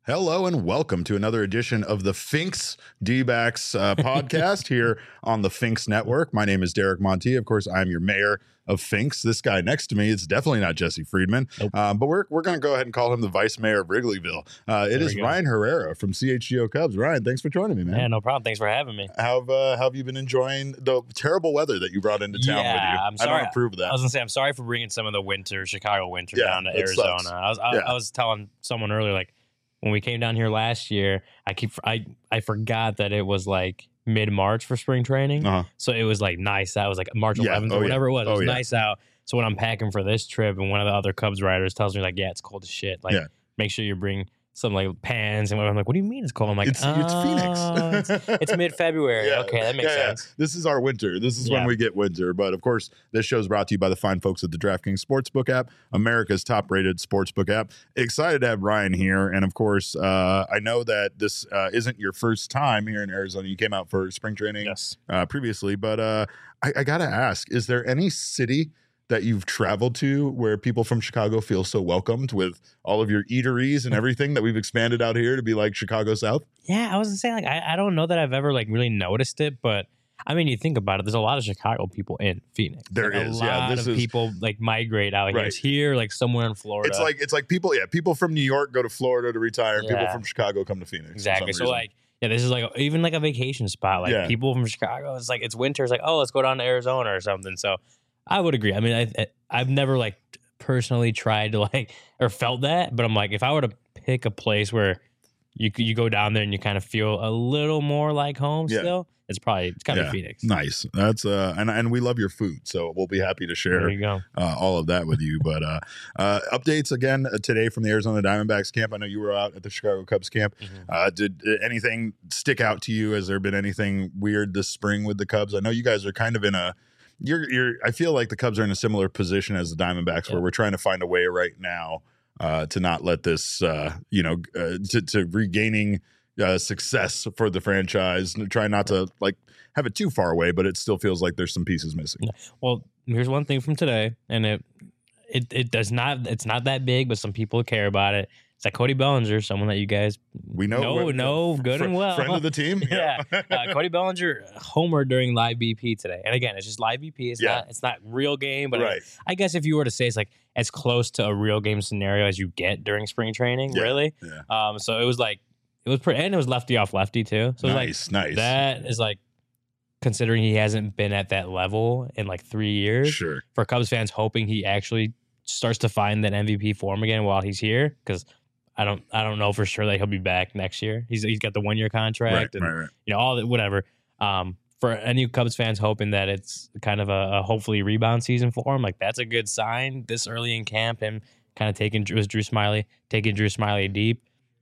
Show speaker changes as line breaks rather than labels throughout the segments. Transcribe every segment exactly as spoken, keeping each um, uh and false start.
Hello and welcome to another edition of the Finks D-backs uh, podcast here on the Finks Network. My name is Derek Monti. Of course, I'm your mayor of Finks. This guy next to me, it's definitely not Jesse Friedman,
Nope.
um, but we're we're going to go ahead and call him the vice mayor of Wrigleyville. Uh, it
There
is
we go.
Ryan Herrera from C H G O Cubs. Ryan, thanks for joining me, man.
Yeah, no problem. Thanks for having me.
How have, uh, how have you been enjoying the terrible weather that you brought into town with
Yeah,
you?
I'm
I
sorry.
don't approve of that.
I was gonna say I'm sorry for bringing some of the winter, Chicago winter,
Yeah,
down to
it
Arizona.
sucks.
I was I,
Yeah.
I was telling someone earlier, like when we came down here last year, I keep I I forgot that it was like mid March for spring training,
Uh-huh.
so it was like nice. That was like March
Yeah.
eleventh
Oh,
or
yeah.
whatever it was. It
Oh,
was
yeah.
nice out. So when I'm packing for this trip, and one of the other Cubs riders tells me like, yeah, it's cold as shit. Like,
Yeah.
make sure you bring some like pants and whatever. I'm like, what do you mean it's cold? I'm like,
It's, it's
"Oh,
Phoenix.
it's, it's mid February.
Yeah.
Okay, that makes
Yeah, yeah.
sense.
This is our winter. This is when
Yeah.
we get winter. But of course, this show is brought to you by the fine folks at the DraftKings Sportsbook app, America's top-rated sportsbook app. Excited to have Ryan here, and of course, uh, I know that this uh, isn't your first time here in Arizona. You came out for spring training
Yes.
uh, previously, but uh, I, I got to ask: is there any city that you've traveled to where people from Chicago feel so welcomed with all of your eateries and everything that we've expanded out here to be like Chicago South?
Yeah, I was gonna say like I, I don't know that I've ever like really noticed it, but I mean you think about it, there's a lot of Chicago people in Phoenix.
There
like,
is,
a
yeah,
lot
this
of
is-
people like migrate out here.
Right.
It's here, like somewhere in Florida.
It's like it's like people, yeah, people from New York go to Florida to retire, and people
Yeah.
from Chicago come to Phoenix. for
exactly.
some
So
reason.
like yeah, this is like even like a vacation spot. Like
Yeah.
people from Chicago, it's like it's winter. It's like oh, let's go down to Arizona or something. So I would agree. I mean, I, I I've never like personally tried to like or felt that, but I'm like if I were to pick a place where you you go down there and you kind of feel a little more like home
Yeah.
still, it's probably it's gotta
Yeah.
be Phoenix.
nice. That's uh, and and we love your food, so we'll be happy to
There
share
you go.
uh, all of that with you. But uh, uh, updates again uh, today from the Arizona Diamondbacks camp. I know you were out at the Chicago Cubs camp.
Mhm.
Uh, did uh, anything stick out to you? Has there been anything weird this spring with the Cubs? I know you guys are kind of in a. You're, you're. I feel like the Cubs are in a similar position as the Diamondbacks,
Yeah.
where we're trying to find a way right now uh, to not let this, uh, you know, uh, to, to regaining uh, success for the franchise. And try not to like have it too far away, but it still feels like there's some pieces missing.
Well, here's one thing from today, and it it it does not it's not that big, but some people care about it. It's like Cody Bellinger, someone that you guys
We know,
know,
we're-
know good
fr-
and well.
friend of the team.
yeah, uh, Cody Bellinger homered during live B P today, and again, it's just live B P. It's
Yeah.
not it's not real game, but I,
right.
I guess if you were to say it's like as close to a real game scenario as you get during spring training,
Yeah.
really.
Yeah.
Um, so it was like it was pretty, and it was lefty off lefty too. So it was like
Nice, nice.
that is like considering he hasn't been at that level in like three years
Sure.
for Cubs fans, hoping he actually starts to find that M V P form again while he's here. Because I don't, I don't know for sure that he'll be back next year. He's he's got the one year contract
Right,
and
right, right.
you know all that, whatever. Um, for any Cubs fans hoping that it's kind of a, a hopefully rebound season for him, like that's a good sign this early in camp. Him kind of taking Drew, Drew Smiley, taking Drew Smiley deep.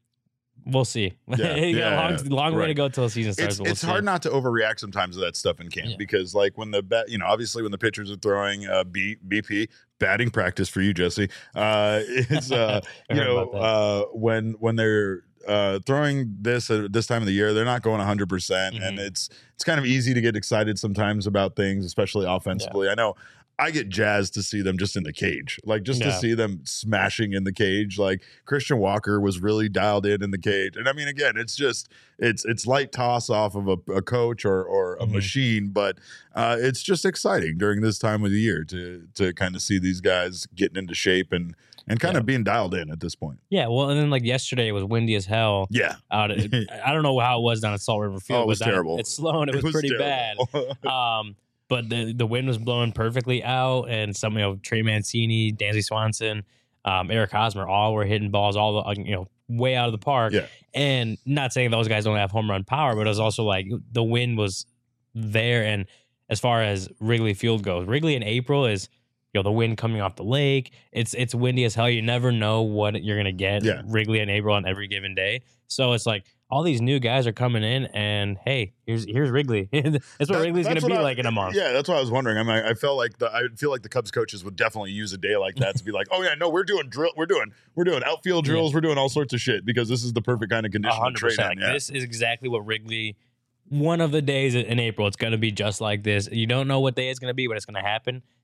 We'll see.
Yeah,
You got a
yeah,
long,
yeah.
long way
Right.
to go till the season starts.
It's,
but we'll
it's
see.
hard not to overreact sometimes to that stuff in camp
Yeah.
because, like, when the bat, you know, obviously when the pitchers are throwing uh, B, BP, batting practice for you, Jesse. Uh, it's uh,
I
you
heard
know,
about that.
uh, when when they're uh, throwing this at this time of the year, they're not going one hundred percent, and
Mhm.
it's it's kind of easy to get excited sometimes about things, especially offensively. I know. I get jazzed to see them just in the cage, like just to
Yeah.
see them smashing in the cage. Like Christian Walker was really dialed in in the cage, and I mean, again, it's just it's it's light toss off of a, a coach or or a
Mhm.
machine, but uh, it's just exciting during this time of the year to to kind of see these guys getting into shape and and kind
Yeah.
of being dialed in at this point.
Yeah, well, and then like yesterday it was windy as hell.
Yeah,
Out at, I don't know how it was down at Salt River Field.
Oh, it was
but down
terrible.
At Sloan, it was, pretty
terrible.
bad. Um, but the the wind was blowing perfectly out, and some you know Trey Mancini, Dansby Swanson, um, Eric Hosmer, all were hitting balls all the you know way out of the park.
Yeah.
And not saying those guys don't have home run power, but it was also like the wind was there. And as far as Wrigley Field goes, Wrigley in April is you know the wind coming off the lake. It's it's windy as hell. You never know what you're gonna get.
Yeah.
Wrigley in April on every given day. So it's like all these new guys are coming in, and hey, here's here's Wrigley. That's what
That-
Wrigley's
that's
gonna be
what I-
like in a month.
Yeah, that's what I was wondering. I mean, I felt like the I feel like the Cubs coaches would definitely use a day like that to be like, oh yeah, no, we're doing drill, we're doing we're doing outfield
Yeah.
drills, we're doing all sorts of shit because this is the perfect kind of
A
condition to
hundred
train
percent.
in.
Like
Yeah.
this is exactly what Wrigley. One of the days in April, it's gonna be just like this. You don't know what day it's gonna be, but it's gonna happen.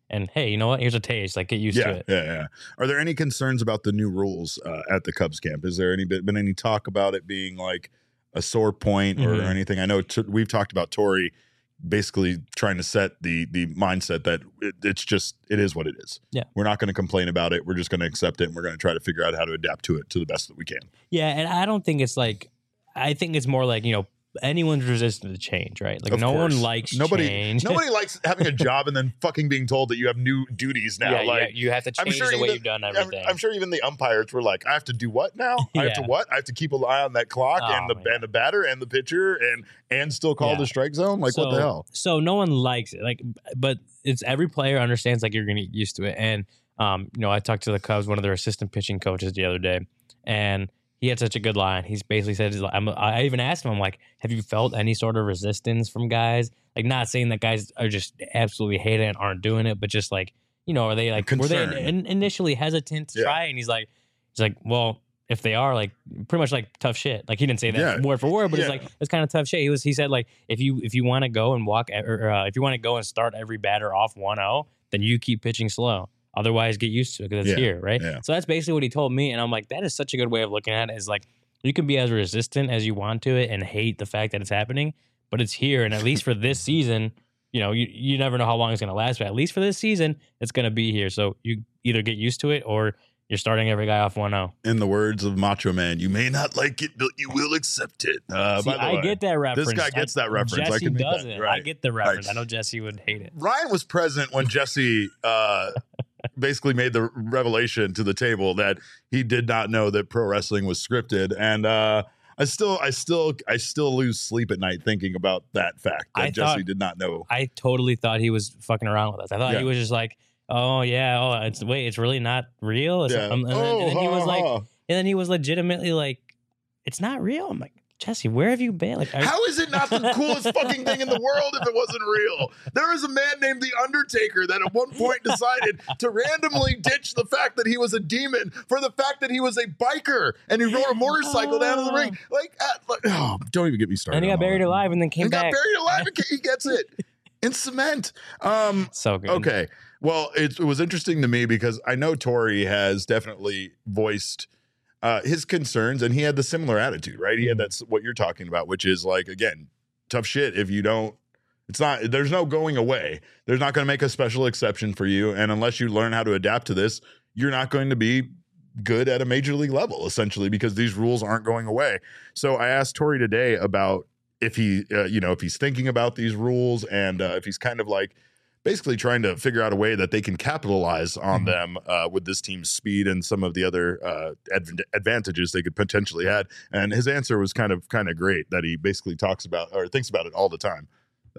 And hey, you know what? Here's a taste. Like, get used
yeah,
to it.
Yeah, yeah. Are there any concerns about the new rules uh, at the Cubs camp? Is there any been any talk about it being like a sore point or
Mhm.
anything? I know t- we've talked about Torrey basically trying to set the the mindset that it, it's just it is what it is.
Yeah.
We're not going to complain about it. We're just going to accept it, and we're going to try to figure out how to adapt to it to the best that we can.
Yeah, and I don't think it's like, I think it's more like, you know, anyone's resistant to change, right? Like,
Of
no
course.
one likes
nobody,
change.
Nobody likes having a job and then fucking being told that you have new duties now.
yeah,
like
yeah, you have to
I'm
change
sure
the way
even-
you've done
I'm,
everything.
I'm sure even the umpires were like, I have to do what now? I have to
Yeah.
what? I have to keep an eye on that clock
Oh,
and the
man.
and the batter and the pitcher and and still call
Yeah.
the strike zone? Like, what the
So-
hell?
So no one likes it. Like, but it's every player understands like you're going to get used to it. And um, you know, I talked to the Cubs, one of their assistant pitching coaches the other day, and he had such a good line. He's basically said, he's like, I'm, I even asked him, I'm like, have you felt any sort of resistance from guys? Like, not saying that guys are just absolutely hate it and aren't doing it, but just like, you know, are they like, were they
Concern.
in, initially hesitant to
Yeah.
try? And he's like, he's like, well, if they are, like, pretty much like tough shit. Like, he didn't say that
Yeah.
word for word, but
Yeah.
it's like it's kind of tough shit. He was he said like, if you if you want to go and walk e- or uh, if you want to go and start every batter off one oh, then you keep pitching slow. Otherwise, get used to it because it's
Yeah.
here, right?
Yeah.
So that's basically what he told me, and I'm like, that is such a good way of looking at it. Is like, you can be as resistant as you want to it and hate the fact that it's happening, but it's here, and at least for this season, you know, you, you never know how long it's going to last, but at least for this season, it's going to be here. So you either get used to it or you're starting every guy off one oh.
In the words of Macho Man, you may not like it, but you will accept it. Uh,
See,
by the
I
way,
get that reference.
guy gets
I-
that reference. I
Jesse
can make that,
doesn't. I
right.
get the reference.
Right.
I know Jesse would hate it.
Ryan was present when Jesse uh, basically made the revelation to the table that he did not know that pro wrestling was scripted, and uh, I still, I still, I still lose sleep at night thinking about that fact that
I
Jesse
thought-
did not know.
I totally thought he was fucking around with us. I thought
Yeah.
he was just like, oh yeah, oh it's wait, it's really not real. It's-
Yeah.
um, and, then,
Oh,
and then he
ha,
was like,
ha.
and then he was legitimately like, it's not real. I'm like, Jesse, where have you been? Like, are-
How is it not the coolest fucking thing in the world if it wasn't real? There is a man named The Undertaker that at one point decided to randomly ditch the fact that he was a demon for the fact that he was a biker and he rode a motorcycle down to the ring. Like, uh, like oh, don't even get me started.
and he
on
got
all
buried
that.
alive and then came
He got
back.
buried alive and he gets it in cement. Um,
So good.
okay. Well, it, it was interesting to me because I know Torrey has definitely voiced uh, his concerns, and he had the similar attitude, right? He had that's what you're talking about, which is like, again, tough shit. If you don't, it's not, there's no going away. There's not going to make a special exception for you. And unless you learn how to adapt to this, you're not going to be good at a major league level, essentially, because these rules aren't going away. So I asked Torrey today about if he, uh, you know, if he's thinking about these rules and uh, if he's kind of like, basically trying to figure out a way that they can capitalize on
Mhm.
them uh, with this team's speed and some of the other uh, adv- advantages they could potentially had. And his answer was kind of kind of great that he basically talks about or thinks about it all the time.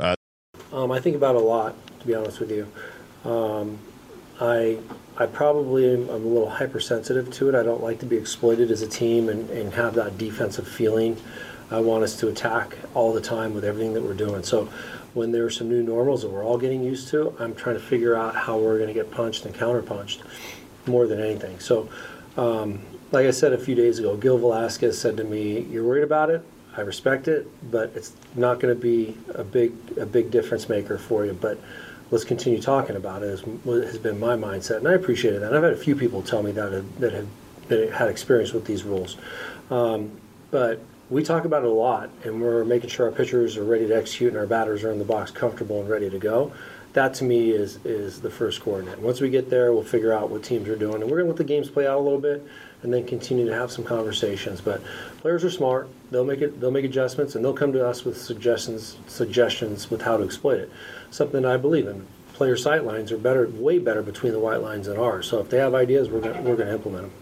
Um, I think about it a lot, to be honest with you. Um, I I probably am I'm a little hypersensitive to it. I don't like to be exploited as a team and, and have that defensive feeling. I want us to attack all the time with everything that we're doing. So when there are some new normals that we're all getting used to, I'm trying to figure out how we're going to get punched and counterpunched more than anything. So um, like I said a few days ago, Gil Velasquez said to me, "You're worried about it. I respect it, but it's not going to be a big a big difference maker for you. But let's continue talking about it." Is what has been my mindset, and I appreciated that. And I've had a few people tell me that have, that have that had experience with these rules, um, but we talk about it a lot, and we're making sure our pitchers are ready to execute and our batters are in the box comfortable and ready to go. That to me is is the first coordinate. Once we get there, we'll figure out what teams are doing, and we're going to let the games play out a little bit, and then continue to have some conversations. But players are smart; they'll make it. They'll make adjustments, and they'll come to us with suggestions. Suggestions with how to exploit it. Something I believe in. Player sight lines are better, way better between the white lines than ours. So if they have ideas, we're going we're going to implement them.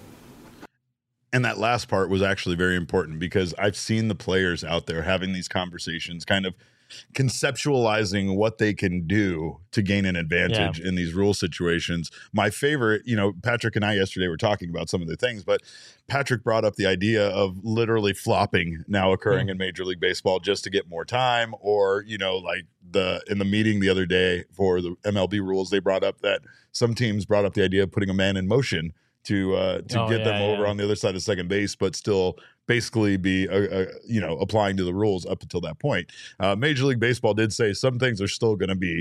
And that last part was actually very important because I've seen the players out there having these conversations, kind of conceptualizing what they can do to gain an advantage in these rule situations. My favorite, you know, Patrick and I yesterday were talking about some of the things, but Patrick brought up the idea of literally flopping now occurring
Mm.
in Major League Baseball just to get more time, or, you know, like the in the meeting the other day for the M L B rules, they brought up that some teams brought up the idea of putting a man in motion to uh, to
Oh,
get them
yeah,
over
yeah.
on the other side of second base, but still basically be, uh, uh, you know, applying to the rules up until that point. Uh, Major League Baseball did say some things are still going to be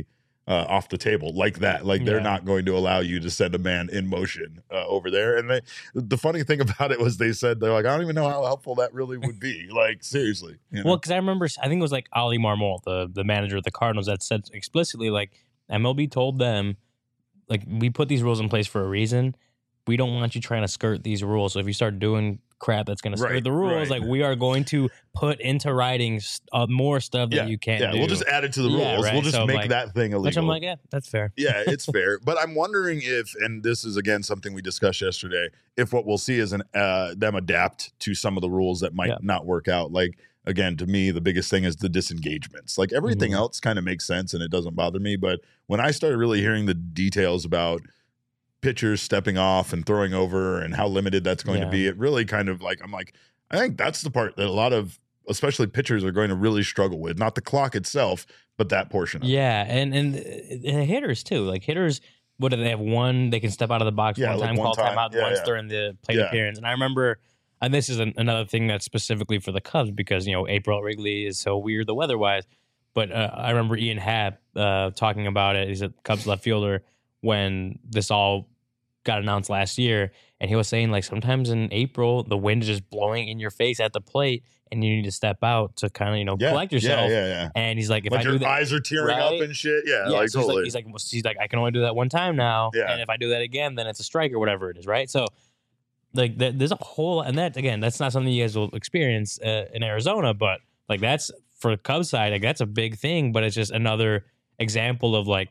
uh, off the table like that. Like they're
Yeah.
not going to allow you to send a man in motion uh, over there. And they, the funny thing about it was they said, they're like, I don't even know how helpful that really would be. Like, seriously. You know?
Well, because I remember, I think it was like Ali Marmol, the, the manager of the Cardinals, that said explicitly, like, M L B told them, like, we put these rules in place for a reason. We don't want you trying to skirt these rules. So if you start doing crap that's going to skirt
Right,
the rules,
right.
like, we are going to put into writing uh, more stuff that
yeah,
you can't
yeah,
do.
we'll just add it to the rules.
Yeah, right.
We'll just
So,
make
like,
that thing illegal.
Which I'm like, yeah, that's fair.
Yeah, it's fair. But I'm wondering if, and this is again something we discussed yesterday, if what we'll see is an uh, them adapt to some of the rules that might
Yeah.
not work out. Like, again, to me, the biggest thing is the disengagements. Like everything
Mhm.
else kind of makes sense and it doesn't bother me. But when I started really hearing the details about pitchers stepping off and throwing over and how limited that's going
Yeah.
to be, it really kind of like, I'm like, I think that's the part that a lot of, especially pitchers, are going to really struggle with. Not the clock itself, but that portion of it.
Yeah, and, and and hitters too. Like hitters, what do they have? One, they can step out of the box
Yeah,
one
like
time,
one
call
time.
timeout
Yeah,
once
yeah.
during the plate
Yeah.
appearance. And I remember, and this is an, another thing that's specifically for the Cubs because you know April at Wrigley is so weird the weather wise. But uh, I remember Ian Happ uh, talking about it. He's a Cubs left fielder when this all got announced last year, and he was saying like sometimes in April the wind is just blowing in your face at the plate, and you need to step out to kind of you know
Yeah,
collect
yeah,
yourself.
yeah, yeah.
And he's like, if
Like
I
your
do that,
eyes are tearing
right?
up and shit. Yeah,
yeah,
like
so he's
totally.
like, he's like, well, he's like, I can only do that one time now,
Yeah.
and if I do that again, then it's a strike or whatever it is, right? So, like, th- there's a whole, and that again, that's not something you guys will experience uh, in Arizona, but like that's for the Cubs side, like that's a big thing, but it's just another example of like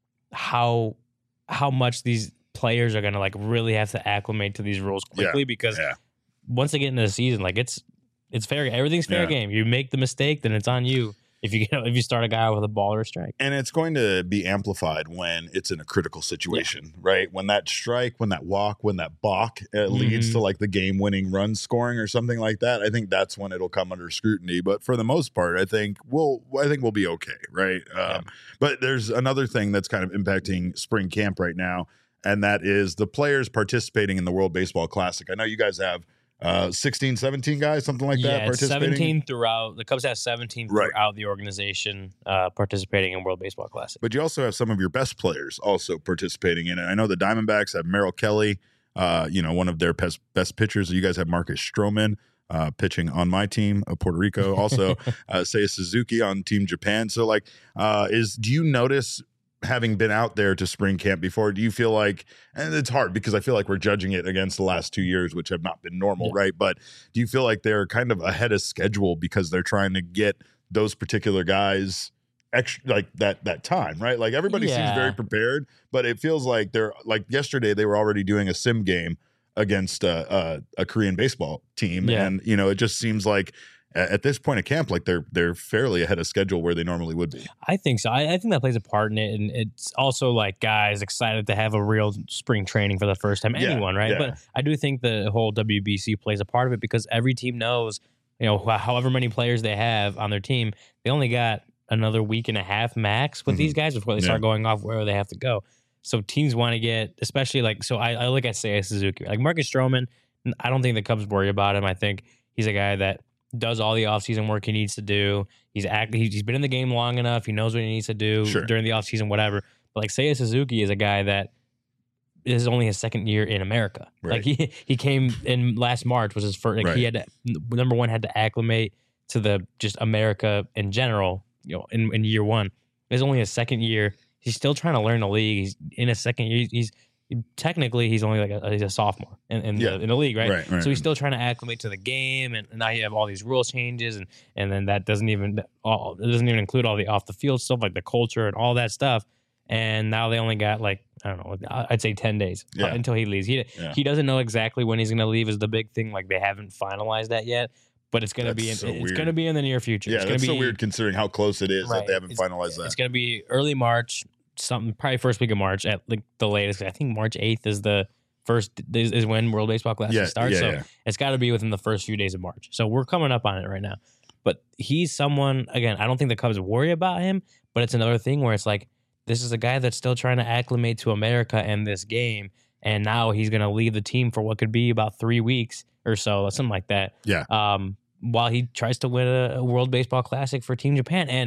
how how much these players are gonna like really have to acclimate to these rules quickly
Yeah,
because
yeah.
once they get into the season, like it's it's fair, everything's fair
Yeah.
game. You make the mistake, then it's on you. If you get, if you start a guy with a ball or a strike.
And it's going to be amplified when it's in a critical situation, right? When that strike, when that walk, when that balk uh, leads
Mhm.
to like the game-winning run scoring or something like that. I think that's when it'll come under scrutiny. But for the most part, I think we'll I think we'll be okay, right? Um, But there's another thing that's kind of impacting spring camp right now, and that is the players participating in the World Baseball Classic. I know you guys have uh, sixteen, seventeen guys, something like that,
Yeah, it's
participating.
seventeen throughout. The Cubs have seventeen
Right.
throughout the organization uh, participating in World Baseball Classic.
But you also have some of your best players also participating in it. I know the Diamondbacks have Merrill Kelly, uh, you know, one of their best best pitchers. You guys have Marcus Stroman uh, pitching on my team of Puerto Rico. Also, uh, Seiya Suzuki on Team Japan. So, like, uh, is do you notice, having been out there to spring camp before, do you feel like, and it's hard because I feel like we're judging it against the last two years, which have not been normal,
Yeah.
right? But do you feel like they're kind of ahead of schedule because they're trying to get those particular guys extra, like that that time, right? Like everybody seems
Yeah.
very prepared, but it feels like they're like yesterday they were already doing a sim game against a, a, a Korean baseball team,
Yeah.
and you know it just seems like a- at this point of camp, like they're they're fairly ahead of schedule where they normally would be.
I think so. I, I think that plays a part in it, and it's also like guys excited to have a real spring training for the first time.
Yeah,
Anyone, right?
yeah.
But I do think the whole W B C plays a part of it because every team knows, you know, wh- however many players they have on their team, they only got another week and a half max with
Mhm.
these guys before they
Yeah.
start going off where they have to go. So teams want to get, especially like, so I, I look at Seiya Suzuki, like Marcus Stroman. I don't think the Cubs worry about him. I think he's a guy that does all the offseason work he needs to do. He's act, he's been in the game long enough. He knows what he needs to do
Sure.
during the offseason, whatever. But like Seiya Suzuki is a guy that this is only his second year in America.
Right.
Like he he came in last March was his first. Like
Right.
he had to, number one had to acclimate to the just America in general. You know, in, in year one, it's only his second year. He's still trying to learn the league. He's in his second year. He's technically he's only like a, he's a sophomore in, in,
Yeah.
the, in the league, right?
Right, right.
So he's still trying to acclimate to the game, and, and now you have all these rules changes, and and then that doesn't even all it doesn't even include all the off the field stuff like the culture and all that stuff. And now they only got like I don't know, I'd say ten days
Yeah.
uh, until he leaves. He
Yeah.
he doesn't know exactly when he's going to leave is the big thing. Like they haven't finalized that yet, but it's going to
That's
be in,
so
it's
weird.
going to be in the near future.
Yeah,
it's gonna
that's
be,
so weird considering how close it is that
Right.
they haven't
It's-
finalized that.
It's going to be early March, something probably first week of March at like the latest. I think March eighth is the first is, is when World Baseball Classic
Yeah,
starts.
yeah,
so
yeah.
it's got to be within the first few days of March. So we're coming up on it right now. But he's someone, again, I don't think the Cubs worry about him, but it's another thing where it's like, this is a guy that's still trying to acclimate to America and this game. And now he's going to leave the team for what could be about three weeks or so, something like that.
Yeah.
Um, while he tries to win a, a World Baseball Classic for Team Japan. And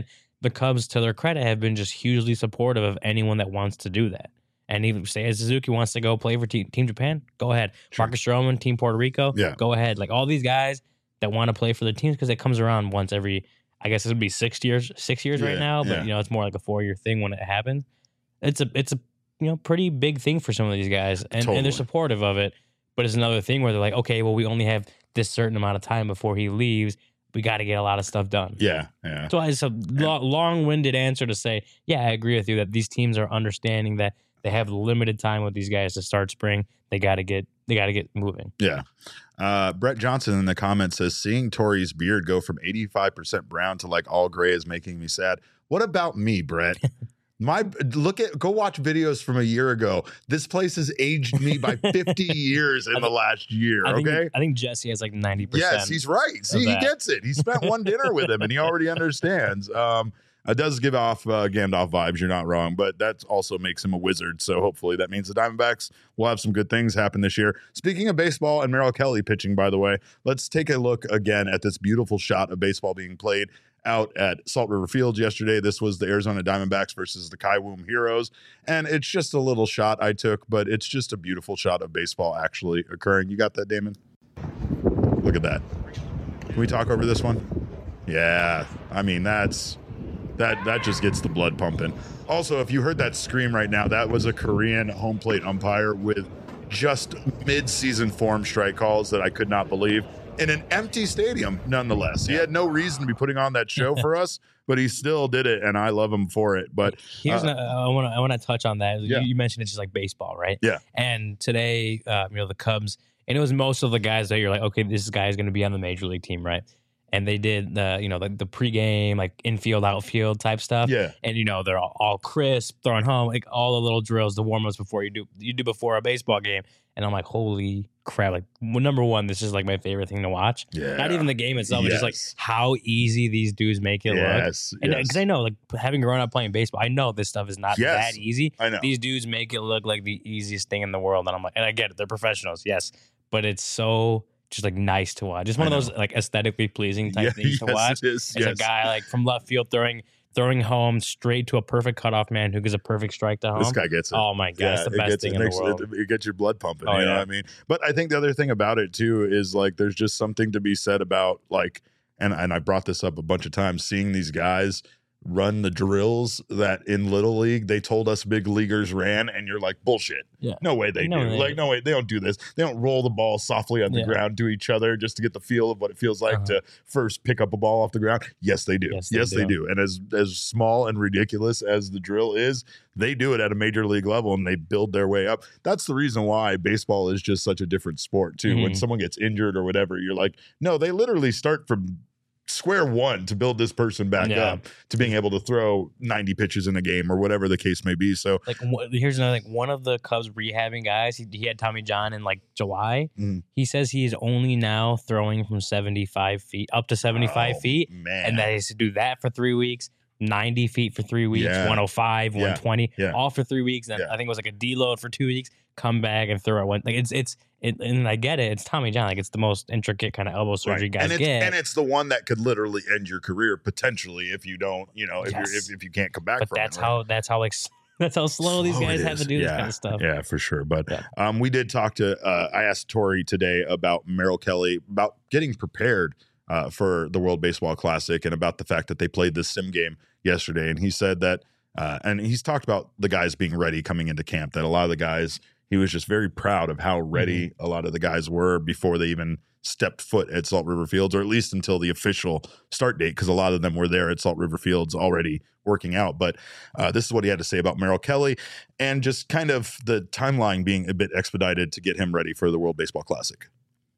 the Cubs, to their credit, have been just hugely supportive of anyone that wants to do that. And even say Suzuki wants to go play for Team, team Japan, go ahead. Sure. Marcus Stroman, Team Puerto Rico,
yeah.
go ahead. Like all these guys that want to play for their teams, because it comes around once every, I guess it would be six years, six years yeah, right now, but yeah. you know it's more like a four year thing when it happens. It's a it's a you know pretty big thing for some of these guys, and, totally. and they're supportive of it. But it's another thing where they're like, okay, well, we only have this certain amount of time before he leaves. We got to get a lot of stuff done.
Yeah, yeah.
So it's a lo- long-winded answer to say, yeah, I agree with you that these teams are understanding that they have limited time with these guys to start spring. They got to get they got to get moving.
Yeah. Uh, Brett Johnson in the comments says, seeing Torrey's beard go from eighty-five percent brown to like all gray is making me sad. What about me, Brett? My look at go watch videos from a year ago. This place has aged me by fifty years in think, the last year.
I think,
okay,
I think Jesse has like ninety percent.
Yes, he's right. See, he gets it. He spent one dinner with him, and he already understands. Um, it does give off uh, Gandalf vibes. You're not wrong, but that also makes him a wizard. So hopefully that means the Diamondbacks will have some good things happen this year. Speaking of baseball and Merrill Kelly pitching, by the way, let's take a look again at this beautiful shot of baseball being played out at Salt River Fields yesterday. This was the Arizona Diamondbacks versus the Kaiwoom Heroes. And it's just a little shot I took, but it's just a beautiful shot of baseball actually occurring. You got that, Damon? Look at that. Can we talk over this one? Yeah. I mean, that's that that just gets the blood pumping. Also, if you heard that scream right now, that was a Korean home plate umpire with just mid-season form strike calls that I could not believe. In an empty stadium, nonetheless. He had no reason to be putting on that show for us, but he still did it, and I love him for it. But
here's
uh,
a, I want to I want to touch on that.
Yeah.
You, you mentioned it's just like baseball, right?
Yeah.
And today, uh, you know, the Cubs, and it was most of the guys that you're like, okay, this guy is going to be on the major league team, right? And they did the, you know, the, the pregame, like infield, outfield type stuff.
Yeah.
And, you know, they're all, all crisp, throwing home, like all the little drills, the warm-ups before you do, you do before a baseball game. And I'm like, holy crap. Like, well, number one, this is like my favorite thing to watch.
Yeah.
Not even the game itself.
Yes.
It's just like how easy these dudes make it
yes.
look. And because
yes.
I know, like, having grown up playing baseball, I know this stuff is not
yes.
that easy.
I know.
These dudes make it look like the easiest thing in the world. And I'm like, and I get it. They're professionals. Yes. But it's so just like nice to watch. Just one of those like aesthetically pleasing type
yeah,
things
yes,
to watch.
It is.
It's
yes.
a guy like from left field throwing throwing home straight to a perfect cutoff man who gives a perfect strike to home.
This guy gets it.
Oh my god,
yeah,
it's the
it
best
gets,
thing
it
in
makes,
the world.
It, it gets your blood pumping.
Oh,
you know
yeah.
what I mean? But I think the other thing about it too is like there's just something to be said about like, and and I brought this up a bunch of times, seeing these guys run the drills that in Little League they told us big leaguers ran, and you're like, bullshit.
Yeah.
No way they
No,
do.
they-
Like, no way, they don't do this. They don't roll the ball softly on the
Yeah.
ground to each other just to get the feel of what it feels like
Uh-huh.
to first pick up a ball off the ground. Yes, they do.
Yes,
Yes,
they
they,
do.
do. And as as small and ridiculous as the drill is, they do it at a major league level and they build their way up. That's the reason why baseball is just such a different sport too. When
Mhm.
someone gets injured or whatever, you're like, no, they literally start from square one to build this person back
Yeah.
up to being able to throw ninety pitches in a game or whatever the case may be. So
Like wh- here's another thing. One of the Cubs rehabbing guys, he, he had Tommy John in like July.
Mhm.
He says he is only now throwing from seventy-five feet up to seventy-five
oh,
feet,
man.
and that is to do that for three weeks. ninety feet for three weeks,
Yeah.
one oh five,
Yeah.
one twenty,
Yeah.
all for three weeks. Then
Yeah.
I think it was like a deload for two weeks, come back and throw it one. Like it's, it's, it, and I get it. It's Tommy John. Like it's the most intricate kind of elbow surgery
Right.
guys
and it's,
get.
and it's the one that could literally end your career potentially if you don't, you know, if
Yes.
you're if, if you can't come back
but
from
that's
it. right?
how, that's how like, s- that's how slow, these
Slow
guys
it
have
is.
to do this
Yeah.
kind of stuff.
Yeah, for sure. But
Yeah.
um, we did talk to, uh, I asked Tori today about Merrill Kelly, about getting prepared uh, for the World Baseball Classic and about the fact that they played this sim game yesterday. And he said that, uh, and he's talked about the guys being ready coming into camp, that a lot of the guys, he was just very proud of how ready
Mm-hmm.
a lot of the guys were before they even stepped foot at Salt River Fields, or at least until the official start date, because a lot of them were there at Salt River Fields already working out. But uh, this is what he had to say about Merrill Kelly and just kind of the timeline being a bit expedited to get him ready for the World Baseball Classic.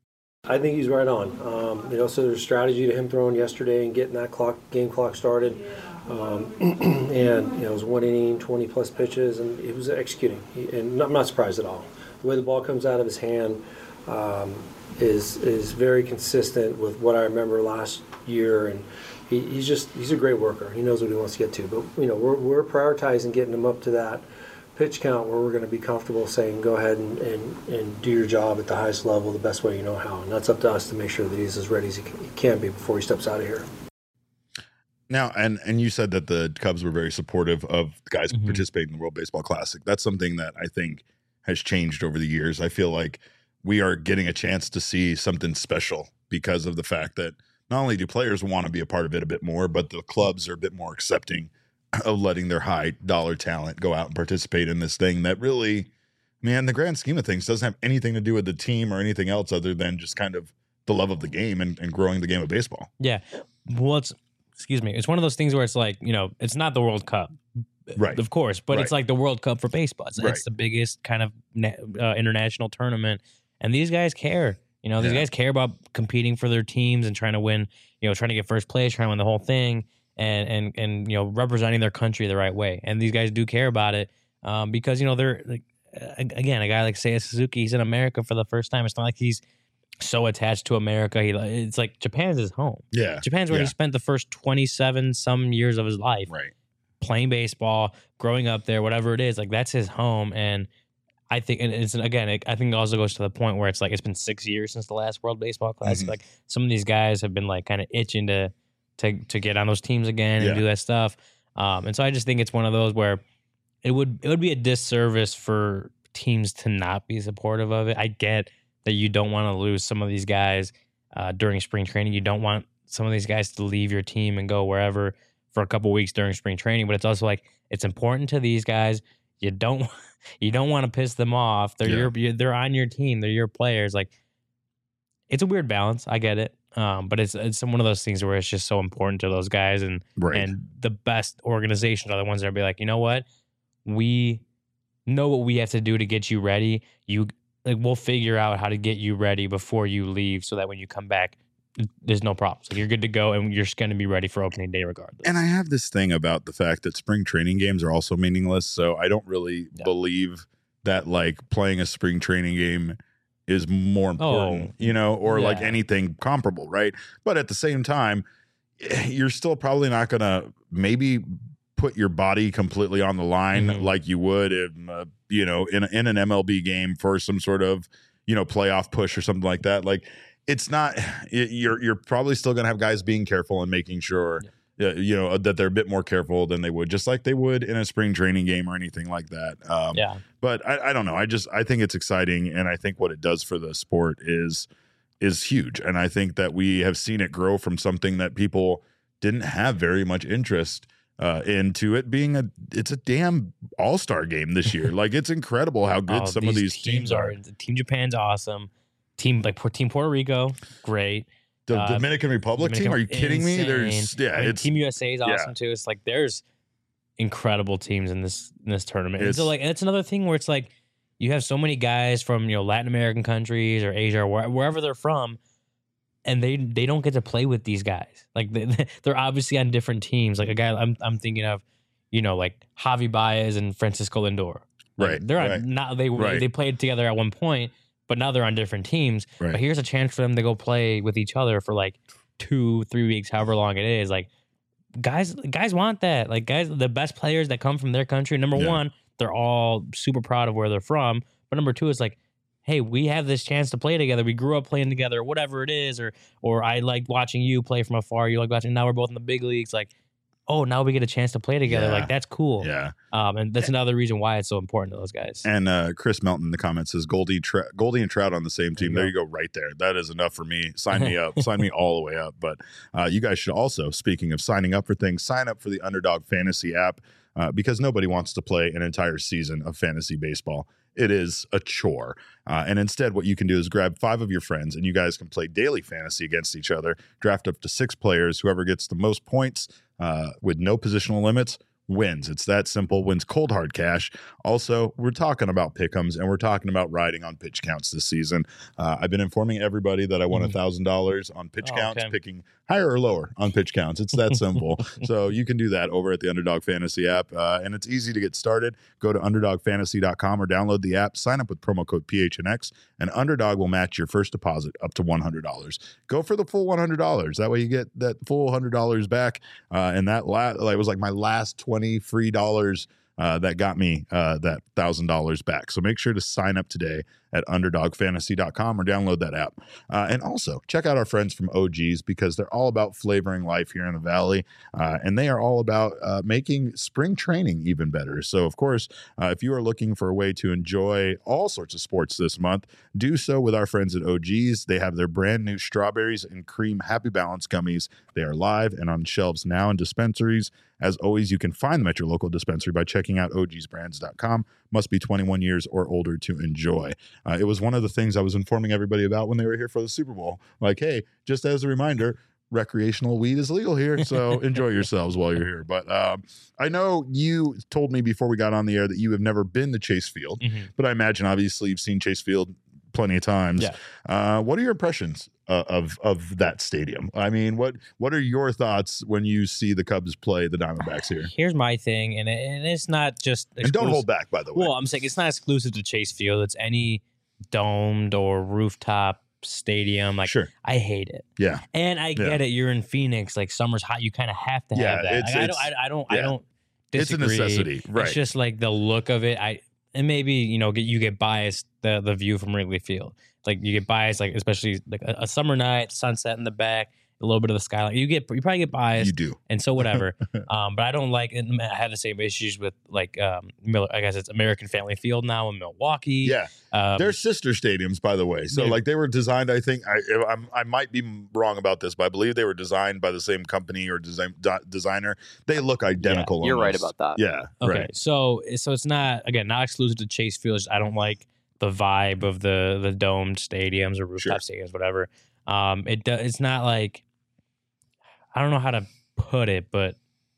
I think he's right on. Um, you know, so there's strategy to him throwing yesterday and getting that clock, game clock started. Um, and, you know, it was one inning, twenty plus pitches, and he was executing. He, and I'm not surprised at all. The way the ball comes out of his hand um, is is very consistent with what I remember last year. And he, he's just, he's a great worker. He knows what he wants to get to. But, you know, we're, we're prioritizing getting him up to that pitch count where we're going to be comfortable saying go ahead and, and, and do your job at the highest level the best way you know how. And that's up to us to make sure that he's as ready as he can, he can be before he steps out of here.
Now, and and you said that the Cubs were very supportive of the guys
Mhm.
participating in the World Baseball Classic. That's something that I think has changed over the years. I feel like we are getting a chance to see something special because of the fact that not only do players want to be a part of it a bit more, but the clubs are a bit more accepting of letting their high dollar talent go out and participate in this thing that really, man, the grand scheme of things doesn't have anything to do with the team or anything else other than just kind of the love of the game and, and growing the game of baseball.
Yeah. Well, it's, excuse me. It's one of those things where it's like, you know, it's not the World Cup.
Right.
Of course, but
Right.
it's like the World Cup for baseball. It's,
Right.
it's the biggest kind of na- uh, international tournament. And these guys care. You know, these
Yeah.
guys care about competing for their teams and trying to win, you know, trying to get first place, trying to win the whole thing and, and, and, you know, representing their country the right way. And these guys do care about it um, because, you know, they're, like, uh, again, a guy like Seiya Suzuki, he's in America for the first time. It's not like he's so attached to America. He, it's like Japan's his home.
Yeah.
Japan's where
yeah.
he spent the first twenty-seven some years of his life
Right.
playing baseball, growing up there, whatever it is. Like that's his home. And I think, and it's again, it, I think it also goes to the point where it's like it's been six years since the last World Baseball Classic.
Mhm.
Like some of these guys have been like kind of itching to to to get on those teams again
Yeah.
and do that stuff. Um, and so I just think it's one of those where it would it would be a disservice for teams to not be supportive of it. I get that you don't want to lose some of these guys uh, during spring training. You don't want some of these guys to leave your team and go wherever for a couple weeks during spring training. But it's also like it's important to these guys. You don't you don't want to piss them off. They're
Yeah.
your you they're on your team. They're your players. Like it's a weird balance. I get it. Um, but it's it's one of those things where it's just so important to those guys, and
Right.
and the best organizations are the ones that be like, you know what, we know what we have to do to get you ready. You like we'll figure out how to get you ready before you leave, so that when you come back, there's no problems. Like you're good to go, and you're just going to be ready for opening day regardless.
And I have this thing about the fact that spring training games are also meaningless. So I don't really
Yeah.
believe that like playing a spring training game is more important,
Oh,
you know, or like
yeah.
anything comparable, right? But at the same time, you're still probably not going to maybe put your body completely on the line
Mhm.
like you would in, uh, you know, in, in an M L B game for some sort of, you know, playoff push or something like that. Like it's not, you're, you're probably still going to have guys being careful and making sure, uh, you know, that they're a bit more careful than they would, just like they would in a spring training game or anything like that. Um,
yeah,
but I, I don't know. I just, I think it's exciting. And I think what it does for the sport is, is huge. And I think that we have seen it grow from something that people didn't have very much interest uh, into it being a, it's a damn all-star game this year. Like it's incredible how good
Oh,
some of these teams are.
Team Japan's awesome. Team like Team Puerto Rico, great.
The
Uh,
Dominican Republic
Dominican-
team? Are you kidding me?
insane.
There's yeah,
I mean,
it's
Team U S A is
yeah.
awesome too. It's like there's incredible teams in this in this tournament. And
It's-
so like that's another thing where it's like you have so many guys from you know Latin American countries or Asia or where, wherever they're from, and they they don't get to play with these guys. Like they, they're obviously on different teams. Like a guy I'm I'm thinking of, you know, like Javi Baez and Francisco Lindor. Like,
Right,
They're on,
right.
not they
Right.
they played together at one point, but now they're on different teams.
Right.
But here's a chance for them to go play with each other for like two, three weeks, however long it is. Like guys, guys want that. Like guys, the best players that come from their country. Number
Yeah.
one, they're all super proud of where they're from. But number two, it's like, hey, we have this chance to play together. We grew up playing together, whatever it is, or or I like watching you play from afar. You like watching. Now we're both in the big leagues. Like, oh, now we get a chance to play together.
Yeah.
Like that's cool.
yeah.
Um, and that's another reason why it's so important to those guys.
And uh, Chris Melton in the comments says Goldie, Tra- Goldie and Trout on the same team.
There
There
you
you go, right there. That is enough for me. Sign me up. Sign me all the way up. But uh, you guys should also, speaking of signing up for things, sign up for the Underdog Fantasy app uh, because nobody wants to play an entire season of fantasy baseball. It is a chore. Uh, and instead, what you can do is grab five of your friends and you guys can play daily fantasy against each other, draft up to six players. Whoever gets the most points uh, with no positional limits wins. It's that simple. Wins cold hard cash. Also, we're talking about pick'ems and we're talking about riding on pitch counts this season. Uh, I've been informing everybody that I won a
Mhm.
thousand dollars on pitch
Oh,
counts,
okay.
picking higher or lower on pitch counts. It's that simple. So you can do that over at the Underdog Fantasy app, uh, and it's easy to get started. Go to underdog fantasy dot com or download the app. Sign up with promo code P H N X, and Underdog will match your first deposit up to one hundred dollars. Go for the full one hundred dollars. That way you get that full one hundred dollars back. Uh, and that la- like, was like my last twenty free dollars uh, that got me uh, that one thousand dollars back. So make sure to sign up today at underdog fantasy dot com or download that app. Uh, and also check out our friends from O G's because they're all about flavoring life here in the Valley. Uh, and they are all about uh, making spring training even better. So, of course, uh, if you are looking for a way to enjoy all sorts of sports this month, do so with our friends at O G's. They have their brand new strawberries and cream Happy Balance gummies. They are live and on shelves now in dispensaries. As always, you can find them at your local dispensary by checking out O Gs brands dot com. Must be twenty-one years or older to enjoy. Uh, it was one of the things I was informing everybody about when they were here for the Super Bowl. Like, hey, just as a reminder, recreational weed is legal here, so enjoy yourselves while you're here. But um, I know you told me before we got on the air that you have never been to Chase Field, mm-hmm. but I imagine obviously you've seen Chase Field plenty of times.
Yeah.
Uh, what are your impressions uh, of of that stadium? I mean, what what are your thoughts when you see the Cubs play the Diamondbacks here?
Here's my thing, and, it, and it's not just exclusive.
And don't hold back, by the way.
Well, I'm saying it's not exclusive to Chase Field. It's any domed or rooftop stadium. Like,
sure.
I hate it.
Yeah.
And I get
yeah.
it. You're in Phoenix. Like, summer's hot. You kind of have to
yeah,
have that.
It's,
like,
it's,
I don't. I, I don't.
yeah.
I don't disagree.
It's a necessity, right?
It's just like the look of it. I and maybe you know get you get biased the the view from Wrigley Field. Like you get biased, like especially like a, a summer night, sunset in the back, a little bit of the skyline. You get you probably get biased.
You do,
and so whatever. um, but I don't like. And I have the same issues with like um, Miller. I guess it's American Family Field now in Milwaukee.
Yeah,
um,
they're sister stadiums, by the way. So like they were designed. I think I I'm, I might be wrong about this, but I believe they were designed by the same company or design de- designer. They look identical.
Yeah, you're
almost.
right about that.
Yeah.
Okay.
Right.
So so it's not again not exclusive to Chase Field. It's just I don't like the vibe of the the domed stadiums or rooftop sure. stadiums, whatever. Um, it do, it's not like I don't know how to put it, but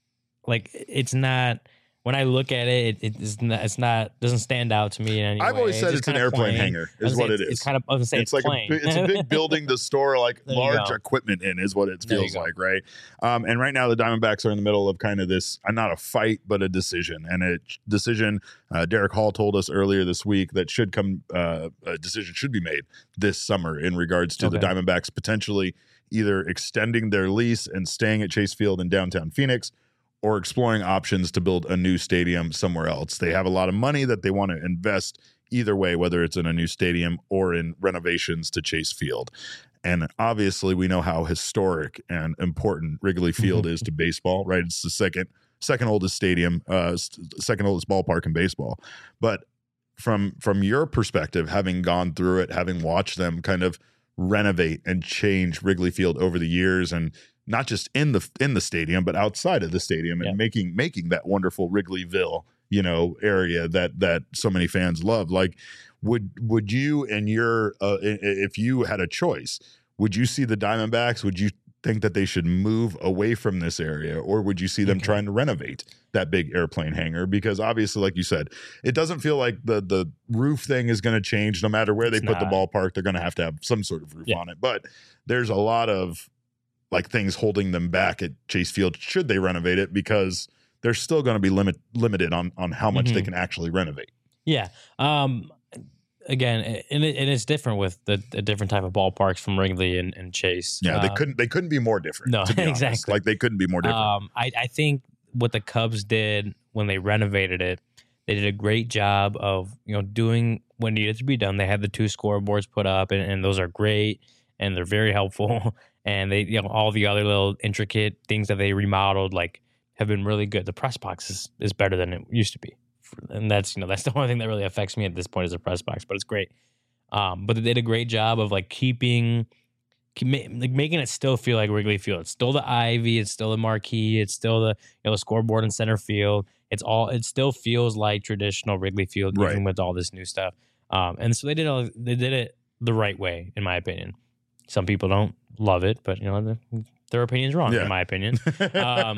like it's not. When I look at it, it it's not, it's not doesn't stand out to me in any
I've
way.
always said it's, it's an airplane plain. hangar, is what it is.
It's kind of I was say
it's,
it's
like
plain.
a, it's a big building to store like large
go.
equipment in, is what it feels like, right? Um, and right now the Diamondbacks are in the middle of kind of this, uh, not a fight, but a decision. And a decision, uh, Derek Hall told us earlier this week that should come, uh, a decision should be made this summer in regards to okay. the Diamondbacks potentially either extending their lease and staying at Chase Field in downtown Phoenix, or exploring options to build a new stadium somewhere else. They have a lot of money that they want to invest either way, whether it's in a new stadium or in renovations to Chase Field. And obviously we know how historic and important Wrigley Field is to baseball, right? It's the second second oldest stadium, uh, second oldest ballpark in baseball. But from from your perspective, having gone through it, having watched them kind of renovate and change Wrigley Field over the years, and not just in the in the stadium, but outside of the stadium, and yeah. making making that wonderful Wrigleyville, you know, area that that so many fans love. Like, would would you and your uh, if you had a choice, would you see the Diamondbacks? Would you think that they should move away from this area, or would you see them okay. trying to renovate that big airplane hangar? Because obviously, like you said, it doesn't feel like the the roof thing is going to change no matter where it's they put not. the ballpark. They're going to have to have some sort of roof yeah. on it. But there's a lot of like things holding them back at Chase Field should they renovate it, because they're still going to be limit limited on on how much mm-hmm. they can actually renovate.
Yeah. Um, again, and, it, and it's different with the, the different type of ballparks from Wrigley and, and Chase.
Yeah,
um,
they couldn't they couldn't be more different.
No,
to be
exactly.
honest. Like they couldn't be more different.
Um, I, I think what the Cubs did when they renovated it, they did a great job of you know doing what needed to be done. They had the two scoreboards put up, and, and those are great, and they're very helpful. And they, you know, all the other little intricate things that they remodeled, like, have been really good. The press box is, is better than it used to be, and that's you know that's the only thing that really affects me at this point is the press box. But it's great. Um, but they did a great job of like keeping, keep, like making it still feel like Wrigley Field. It's still the ivy, it's still the marquee, it's still the you know the scoreboard in center field. It's all it still feels like traditional Wrigley Field,
right.
even with all this new stuff. Um, and so they did all, they did it the right way, in my opinion. Some people don't love it, but you know their opinion's wrong, yeah. in my opinion. Um,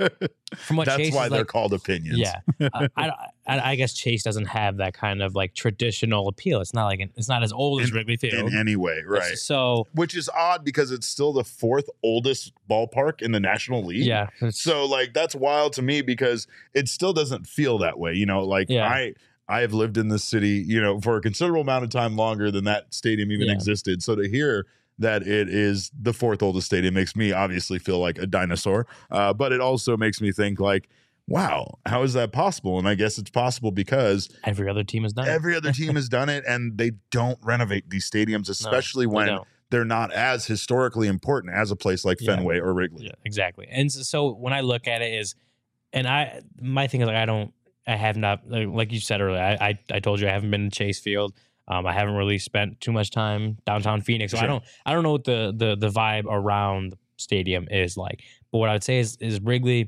from what
that's
Chase
why
is
they're
like,
called opinions.
Yeah, I, I, I guess Chase doesn't have that kind of like traditional appeal. It's not like an, it's not as old
in,
as Wrigley Field
in any way, right?
So,
which is odd because it's still the fourth oldest ballpark in the National League.
Yeah.
So like that's wild to me because it still doesn't feel that way. You know, like yeah. I. I have lived in this city, you know, for a considerable amount of time longer than that stadium even yeah. existed. So to hear that it is the fourth oldest stadium makes me obviously feel like a dinosaur. Uh, but it also makes me think like, wow, how is that possible? And I guess it's possible because
Every other team has done it.
every other team has done it, and they don't renovate these stadiums, especially
No, they
when
don't.
they're not as historically important as a place like
Yeah.
Fenway or Wrigley.
Yeah, exactly. And so, so when I look at it is, and I, my thing is like, I don't, I have not, like like you said earlier, I, I, I told you I haven't been to Chase Field. Um, I haven't really spent too much time downtown Phoenix. So
Sure.
I don't, I don't know what the, the, the vibe around the stadium is like, but what I would say is, is Wrigley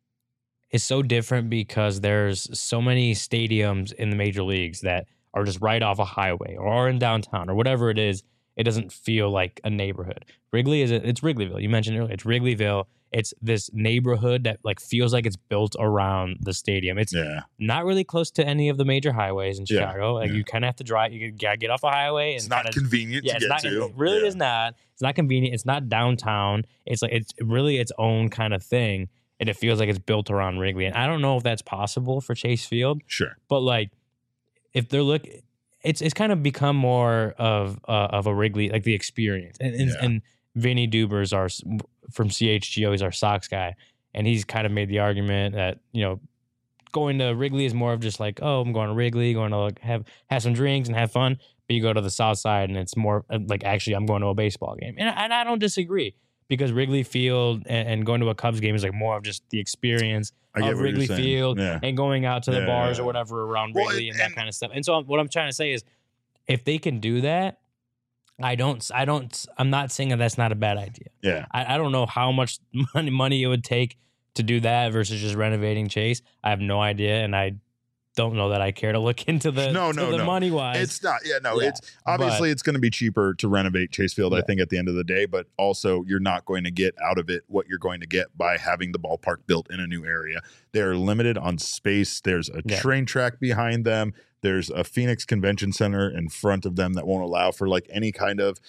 is so different because there's so many stadiums in the major leagues that are just right off a highway or are in downtown or whatever it is. It doesn't feel like a neighborhood. Wrigley is a, it's Wrigleyville. You mentioned earlier, it's Wrigleyville. It's this neighborhood that like feels like it's built around the stadium. It's
Yeah.
not really close to any of the major highways in
Yeah,
Chicago. Like
yeah.
you kind of have to drive. You gotta get off a highway. And
It's not
kinda,
convenient
yeah,
to
it's
get
not.
to.
It really
Yeah.
is not. It's not convenient. It's not downtown. It's like it's really its own kind of thing, and it feels like it's built around Wrigley. And I don't know if that's possible for Chase Field,
Sure.
but like if they're look, it's it's kind of become more of uh, of a Wrigley, like the experience. And and,
Yeah.
and Vinny Duber's our from C H G O. He's our Sox guy, and he's kind of made the argument that you know going to Wrigley is more of just like, oh, I'm going to Wrigley, going to like have have some drinks and have fun. But you go to the South Side, and it's more uh, like actually I'm going to a baseball game, and and I don't disagree because Wrigley Field and, and going to a Cubs game is like more of just the experience
I get
of
what you're
Wrigley
saying.
Field
Yeah.
and going out to the
Yeah,
bars
yeah.
or whatever around
Well,
Wrigley
and-
and that
and-
kind of stuff. And so what I'm trying to say is, if they can do that, I don't, I don't, I'm not saying that that's not a bad idea.
Yeah.
I, I don't know how much money money it would take to do that versus just renovating Chase. I have no idea, and I don't know that I care to look into the
No,
to
no,
the
no.
money wise.
It's not. Yeah, no.
Yeah,
It's obviously it's going to be cheaper to renovate Chase Field. I
Yeah.
think at the end of the day, but also you're not going to get out of it what you're going to get by having the ballpark built in a new area. They're limited on space. There's a
Yeah.
train track behind them. There's a Phoenix Convention Center in front of them that won't allow for like any kind of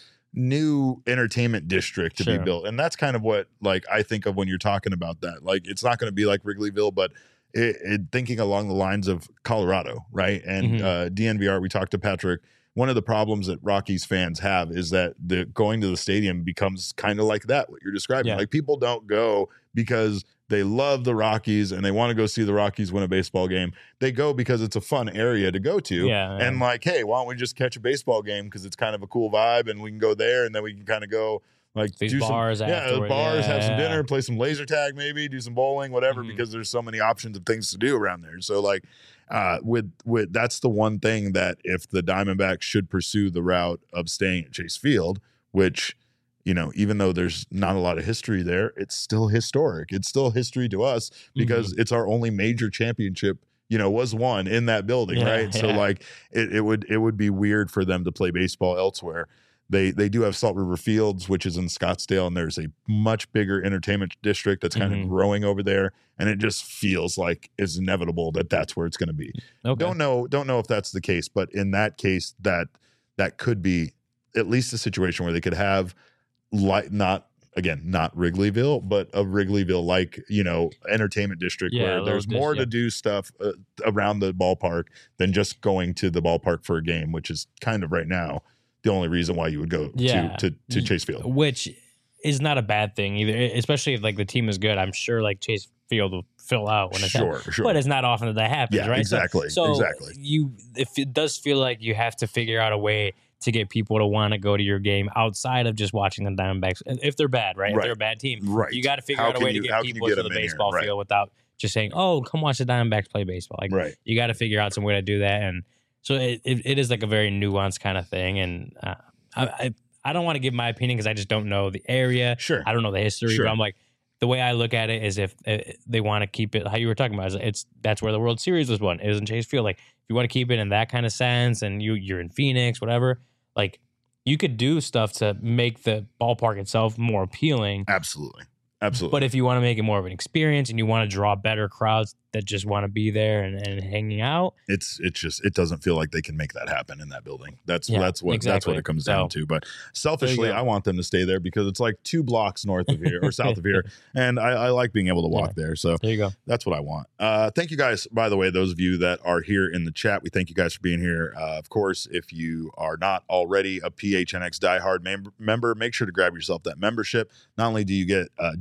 new entertainment district to
Sure.
be built. And that's kind of what like I think of when you're talking about that. Like it's not going to be like Wrigleyville, but it, it, thinking along the lines of Colorado, right? And
Mhm.
uh, D N V R, we talked to Patrick. One of the problems that Rockies fans have is that the going to the stadium becomes kind of like that, what you're describing.
Yeah.
Like people don't go because they love the Rockies and they want to go see the Rockies win a baseball game. They go because it's a fun area to go to.
Yeah,
And
yeah.
like, hey, why don't we just catch a baseball game because it's kind of a cool vibe and we can go there and then we can kind of go like
These
do
bars
some, yeah,
afterward.
bars, have some
Yeah.
dinner, play some laser tag, maybe do some bowling, whatever,
Mhm.
because there's so many options of things to do around there. So like, uh, with with that's the one thing that if the Diamondbacks should pursue the route of staying at Chase Field, which you know, even though there's not a lot of history there, it's still historic. It's still history to us because it's our only major championship. You know, was won in that building,
Yeah,
right? So
yeah.
like, it, it would it would be weird for them to play baseball elsewhere. They they do have Salt River Fields, which is in Scottsdale, and there's a much bigger entertainment district that's kind
Mhm.
of growing over there, and it just feels like it's inevitable that that's where it's going to be.
Okay.
Don't know don't know if that's the case, but in that case, that that could be at least a situation where they could have like not again not Wrigleyville, but a Wrigleyville like you know entertainment district
Yeah, a
where
little
there's
dis-
more
yeah.
to do stuff uh, around the ballpark than just going to the ballpark for a game, which is kind of right now the only reason why you would go
Yeah.
to, to to Chase Field.
which is not a bad thing either, especially if like the team is good. I'm sure like Chase Field will fill out when it's
Sure, sure.
but it's not often that that happens,
Yeah,
right? So-
exactly,
So,
exactly.
you, if it does feel like you have to figure out a way to get people to want to go to your game outside of just watching the Diamondbacks, and if they're bad, right? If
Right.
they're a bad team,
Right.
you got to figure
How
out a
can
way
you-
to
how
get
can you
people
get
to the
them in here?
baseball
Right.
field without just saying, "Oh, come watch the Diamondbacks play baseball." Like,
Right.
you got to figure out some way to do that, and so it, it, it is like a very nuanced kind of thing. And uh, I, I I don't want to give my opinion because I just don't know the area.
Sure.
I don't know the history,
Sure.
but I'm like, the way I look at it is if uh, they want to keep it how you were talking about, is it's that's where the World Series was won. It was in Chase Field. Like, if you want to keep it in that kind of sense, and you you're in Phoenix, whatever, like you could do stuff to make the ballpark itself more appealing.
Absolutely. Absolutely.
But if you want to make it more of an experience and you want to draw better crowds that just want to be there and, and hanging out,
it's it's just it doesn't feel like they can make that happen in that building. That's
Yeah,
that's what that's
exactly.
what it comes
So,
down to. But selfishly,
go.
I want them to stay there because it's like two blocks north of here or south of here, and I, I like being able to walk there. So
there you go.
that's what I want. Uh, thank you guys, by the way, those of you that are here in the chat. We thank you guys for being here. Uh, of course, if you are not already a P H N X diehard mem- member, make sure to grab yourself that membership. Not only do you get uh,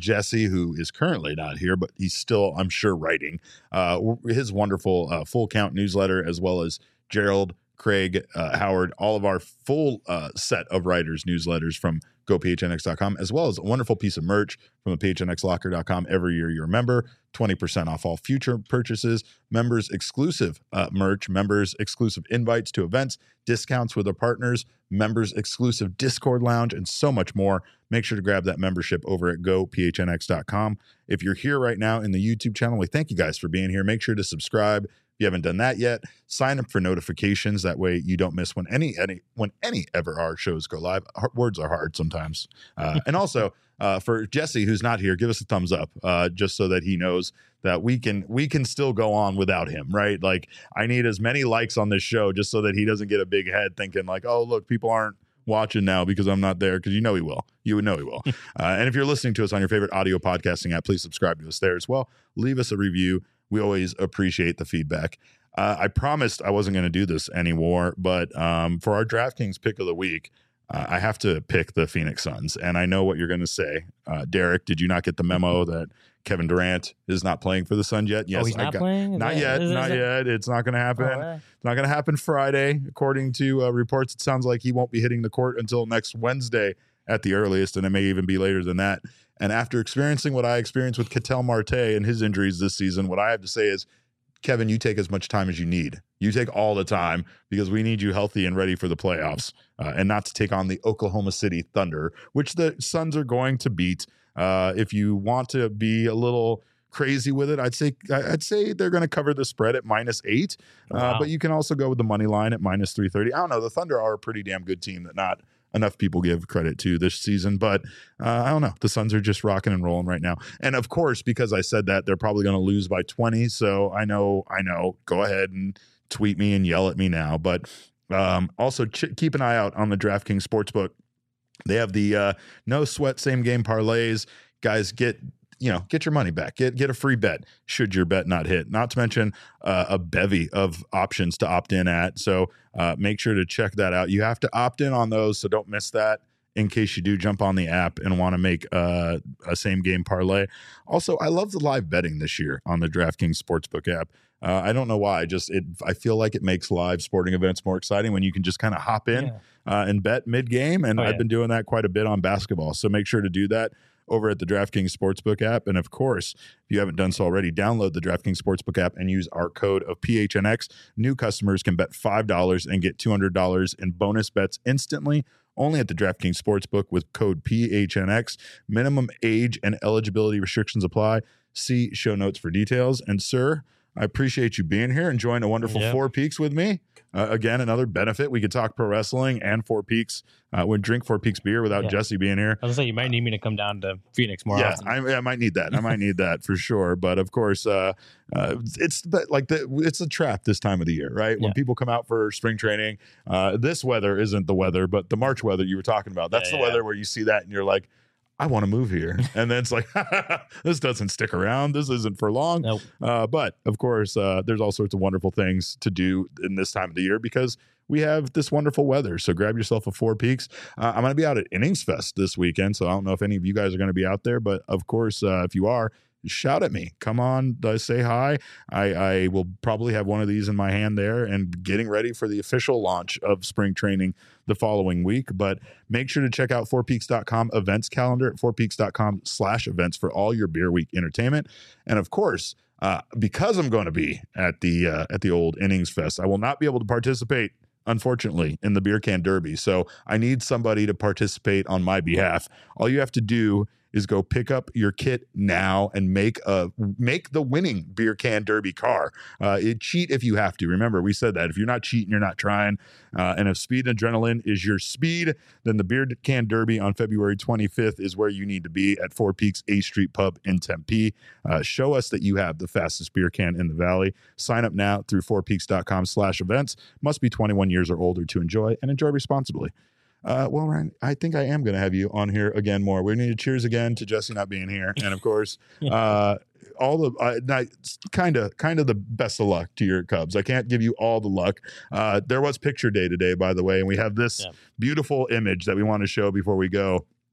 Jesse, who is currently not here, but he's still, I'm sure, writing uh, his wonderful uh, Full Count newsletter, as well as Gerald, Craig, uh, Howard, all of our full uh, set of writers' newsletters from go p h n x dot com, as well as a wonderful piece of merch from the p h n x locker dot com. Every year you're a member, twenty percent off all future purchases, members exclusive uh, merch, members exclusive invites to events, discounts with our partners, members exclusive Discord lounge, and so much more. Make sure to grab that membership over at go p h n x dot com. If you're here right now in the YouTube channel, we thank you guys for being here. Make sure to subscribe. If you haven't done that yet, sign up for notifications. That way you don't miss when any any when any ever our shows go live. Our, words are hard sometimes. Uh, and also uh, for Jesse, who's not here, give us a thumbs up uh, just so that he knows that we can we can still go on without him, right? Like, I need as many likes on this show just so that he doesn't get a big head thinking like, oh, look, people aren't watching now because I'm not there, because you know he will. You would know he will. uh, and if you're listening to us on your favorite audio podcasting app, please subscribe to us there as well. Leave us a review. We always appreciate the feedback. Uh, I promised I wasn't going to do this anymore, but um, for our DraftKings pick of the week, uh, I have to pick the Phoenix Suns. And I know what you're going to say. Uh, Derek, did you not get the memo that Kevin Durant is not playing for the Suns yet? Yes,
oh, he's
I
not
got,
playing? Is
not
that,
yet.
is,
Not
is
yet. It's not going to happen.
Oh, right.
It's not going to happen Friday. According to uh, reports, it sounds like he won't be hitting the court until next Wednesday at the earliest, and it may even be later than that. And after experiencing what I experienced with Ketel Marte and his injuries this season, what I have to say is, Kevin, you take as much time as you need. You take all the time, because we need you healthy and ready for the playoffs, uh, and not to take on the Oklahoma City Thunder, which the Suns are going to beat. Uh, if you want to be a little crazy with it, I'd say I'd say they're going to cover the spread at minus eight. Uh,
Wow.
But you can also go with the money line at minus three thirty. I don't know. The Thunder are a pretty damn good team that not enough people give credit to this season, but uh, I don't know. The Suns are just rocking and rolling right now. And of course, because I said that, they're probably going to lose by twenty. So I know, I know, go ahead and tweet me and yell at me now. But um, also ch- keep an eye out on the DraftKings Sportsbook. They have the uh, no sweat same game parlays. Guys, get you know, get your money back. Get get a free bet should your bet not hit. Not to mention uh, a bevy of options to opt in at. So uh, make sure to check that out. You have to opt in on those, so don't miss that in case you do jump on the app and want to make uh, a same game parlay. Also, I love the live betting this year on the DraftKings Sportsbook app. Uh, I don't know why. Just it. I feel like it makes live sporting events more exciting when you can just kind of hop in
Yeah.
uh, and bet mid game. And
Oh,
I've
yeah.
been doing that quite a bit on basketball. So make sure to do that over at the DraftKings Sportsbook app. And of course, if you haven't done so already, download the DraftKings Sportsbook app and use our code of P H N X. New customers can bet five dollars and get two hundred dollars in bonus bets instantly, only at the DraftKings Sportsbook with code P H N X. Minimum age and eligibility restrictions apply. See show notes for details. And sir, I appreciate you being here, enjoying a wonderful
Yep.
Four Peaks with me. Uh, again, another benefit. We could talk pro wrestling and Four Peaks. Uh, would drink Four Peaks beer without
Yeah.
Jesse being here.
I was gonna say, you might need me to come down to Phoenix more
Yeah,
often.
I, I might need that. I might need that for sure. But of course, uh, uh, it's but like the, it's a trap this time of the year, right? When
Yeah.
people come out for spring training, uh, this weather isn't the weather, but the March weather you were talking about. That's
Yeah,
the
yeah.
weather where you see that and you're like, I want to move here, and then it's like, this doesn't stick around. This isn't for long.
Nope.
Uh, but of course, uh, there's all sorts of wonderful things to do in this time of the year because we have this wonderful weather. So grab yourself a Four Peaks. Uh, I'm going to be out at Innings Fest this weekend, so I don't know if any of you guys are going to be out there, but of course, uh, if you are, shout at me. Come on, uh, say hi. I, I will probably have one of these in my hand there and getting ready for the official launch of spring training the following week. But make sure to check out four peaks dot com events calendar at four peaks dot com slash events for all your Beer Week entertainment. And of course, uh, because I'm going to be at the uh, at the old Innings Fest, I will not be able to participate, unfortunately, in the Beer Can Derby. So I need somebody to participate on my behalf. All you have to do is go pick up your kit now and make a make the winning Beer Can Derby car. Uh, it, cheat if you have to. Remember, we said that if you're not cheating, you're not trying. Uh, and if speed and adrenaline is your speed, then the Beer Can Derby on February twenty-fifth is where you need to be at Four Peaks A Street Pub in Tempe. Uh, show us that you have the fastest beer can in the valley. Sign up now through four peaks dot com slash events. Must be twenty-one years or older to enjoy, and enjoy responsibly. Uh, well, Ryan, I think I am going to have you on here again more. We need to cheers again to Jesse not being here, and of course, uh, all the uh, kind of kind of the best of luck to your Cubs. I can't give you all the luck. Uh, there was picture day today, by the way, and we have this
Yeah.
beautiful image that we want to show before we go.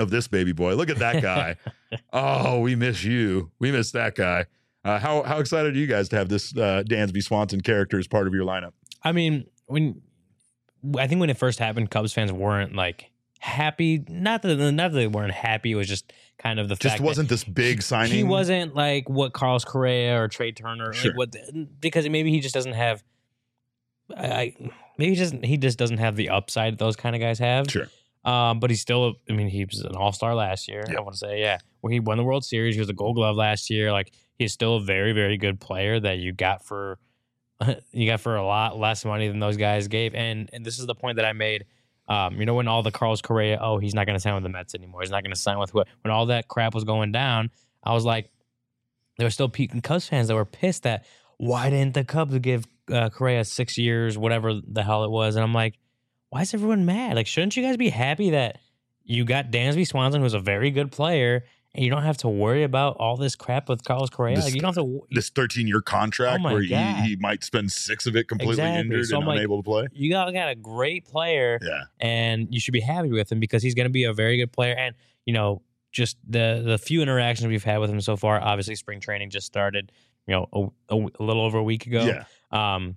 of this baby boy. Look at that guy. Oh, we miss you. We miss that guy. Uh, how how excited are you guys to have this uh, Dansby Swanson character as part of your lineup?
I mean, when I think when it first happened, Cubs fans weren't like happy. Not that not that they weren't happy. It was just kind of the
just
fact
wasn't
that
this big signing.
He wasn't like what Carlos Correa or Trey Turner.
Sure.
Like what because maybe he just doesn't have. I maybe he just he just doesn't have the upside those kind of guys have.
Sure.
Um, but he's still. I mean, he was an All Star last year.
Yep.
I want to say, yeah, where he won the World Series. He was a Gold Glove last year. Like he's still a very very good player that you got for. You got for a lot less money than those guys gave, and and this is the point that I made. Um, you know, when all the Carlos Correa, oh, he's not going to sign with the Mets anymore. He's not going to sign with what? When all that crap was going down, I was like, there were still Cubs fans that were pissed that why didn't the Cubs give uh, Correa six years, whatever the hell it was, and I'm like, why is everyone mad? Like, shouldn't you guys be happy that you got Dansby Swanson, who's a very good player? And you don't have to worry about all this crap with Carlos Correa.
This,
like you don't have to.
This thirteen-year contract
oh
where he,
God.
he might spend six of it completely
Exactly.
injured
so
and
like,
unable to play.
You got, got a great player,
Yeah,
and you should be happy with him because he's going to be a very good player. And you know, just the the few interactions we've had with him so far. Obviously, spring training just started. You know, a, a, a little over a week ago.
Yeah. Um,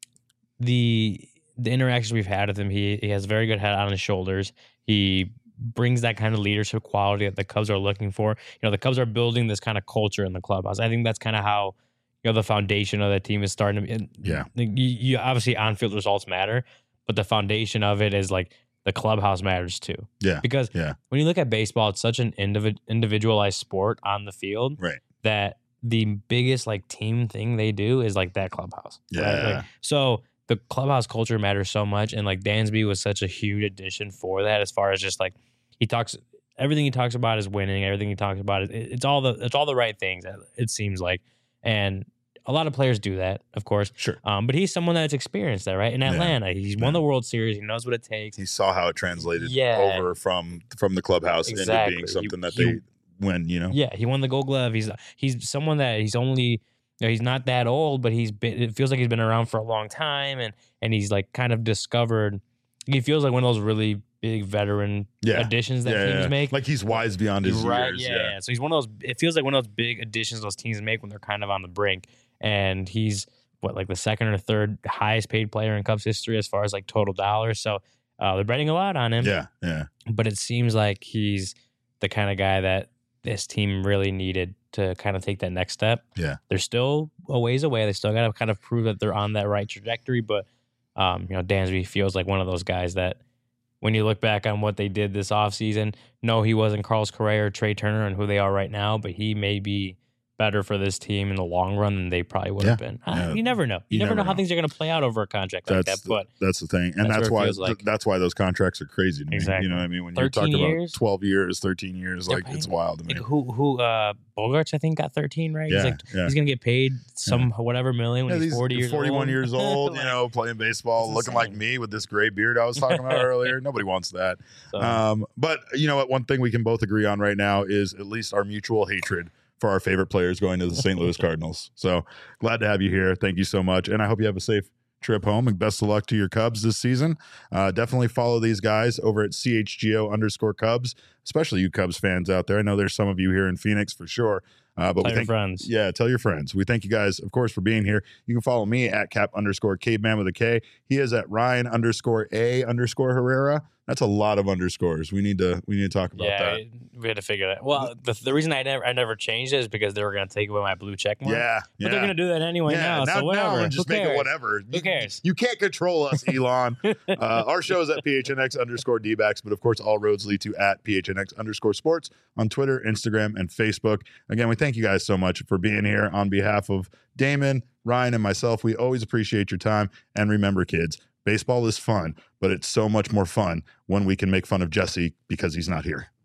the the interactions we've had with him, he he has a very good head on his shoulders. He brings that kind of leadership quality that the Cubs are looking for. You know, the Cubs are building this kind of culture in the clubhouse. I think that's kind of how, you know, the foundation of the team is starting to be.
Yeah.
You, you obviously on-field results matter, but the foundation of it is like the clubhouse matters too.
Yeah.
Because
yeah.
when you look at baseball, it's such an individ- individualized sport on the field
Right.
that the biggest like team thing they do is like that clubhouse.
Yeah.
Right? Like, so the clubhouse culture matters so much. And like Dansby was such a huge addition for that as far as just like, he talks everything he talks about is winning. Everything he talks about is it's all the it's all the right things. It seems like, and a lot of players do that, of course.
Sure.
Um, but he's someone that's experienced that, right? In Atlanta, yeah. he's won yeah. the World Series. He knows what it takes.
He saw how it translated
yeah.
over from from the clubhouse
exactly.
into being something
he,
that they
he,
win. You know.
Yeah, he won the Gold Glove. He's he's someone that he's only. You know, he's not that old, but he's been. It feels like he's been around for a long time, and and he's like kind of discovered. He feels like one of those really big veteran
yeah.
additions that
yeah,
teams
yeah.
make.
Like he's wise beyond his
right,
years.
Yeah,
yeah.
yeah. So he's one of those. It feels like one of those big additions those teams make when they're kind of on the brink. And he's what like the second or third highest paid player in Cubs history as far as like total dollars. So uh, they're betting a lot on him.
Yeah, yeah.
But it seems like he's the kind of guy that this team really needed to kind of take that next step.
Yeah.
They're still a ways away. They still got to kind of prove that they're on that right trajectory. But, um, you know, Dansby feels like one of those guys that when you look back on what they did this offseason, no, he wasn't Carlos Correa or Trey Turner and who they are right now, but he may be better for this team in the long run than they probably would
yeah.
have been.
Yeah.
Uh, you never know. You, you never, never know how know. things are going to play out over a contract like
that's
that. But
the, that's the thing, and
that's,
that's why
like.
that's why those contracts are crazy to me.
Exactly.
You know what I mean? When you're talking
years?
about twelve years, thirteen years, like it's wild to me.
Like who who uh, Bogarts I think got thirteen, right?
Yeah,
he's like
yeah.
he's gonna get paid some
yeah.
whatever million when
yeah,
he's forty years
forty-one
old.
years old, you know, playing baseball, looking like me with this gray beard I was talking about earlier. Nobody wants that. So, um, but you know what? One thing we can both agree on right now is at least our mutual hatred for our favorite players going to the Saint Louis Cardinals. So glad to have you here. Thank you so much. And I hope you have a safe trip home and best of luck to your Cubs this season. Uh, definitely follow these guys over at C H G O underscore Cubs, especially you Cubs fans out there. I know there's some of you here in Phoenix for sure. Uh, but
tell
we thank,
your friends.
Yeah, tell your friends. We thank you guys, of course, for being here. You can follow me at cap underscore caveman with a K. He is at Ryan underscore A underscore Herrera. That's a lot of underscores. We need to we need to talk about
yeah,
that.
We had to figure that. Well, the, the reason I never I never changed it is because they were going to take away my blue check mark.
Yeah,
but
yeah.
they're going to do that anyway
yeah,
now.
now
So whatever.
Now and just
Who
make
cares?
it whatever.
Who cares?
You, you can't control us, Elon. uh, our show is at P H N X underscore D-backs, but of course, all roads lead to at P H N X underscore sports on Twitter, Instagram, and Facebook. Again, we thank you guys so much for being here on behalf of Damon, Ryan, and myself. We always appreciate your time. And remember, kids, baseball is fun, but it's so much more fun when we can make fun of Jesse because he's not here.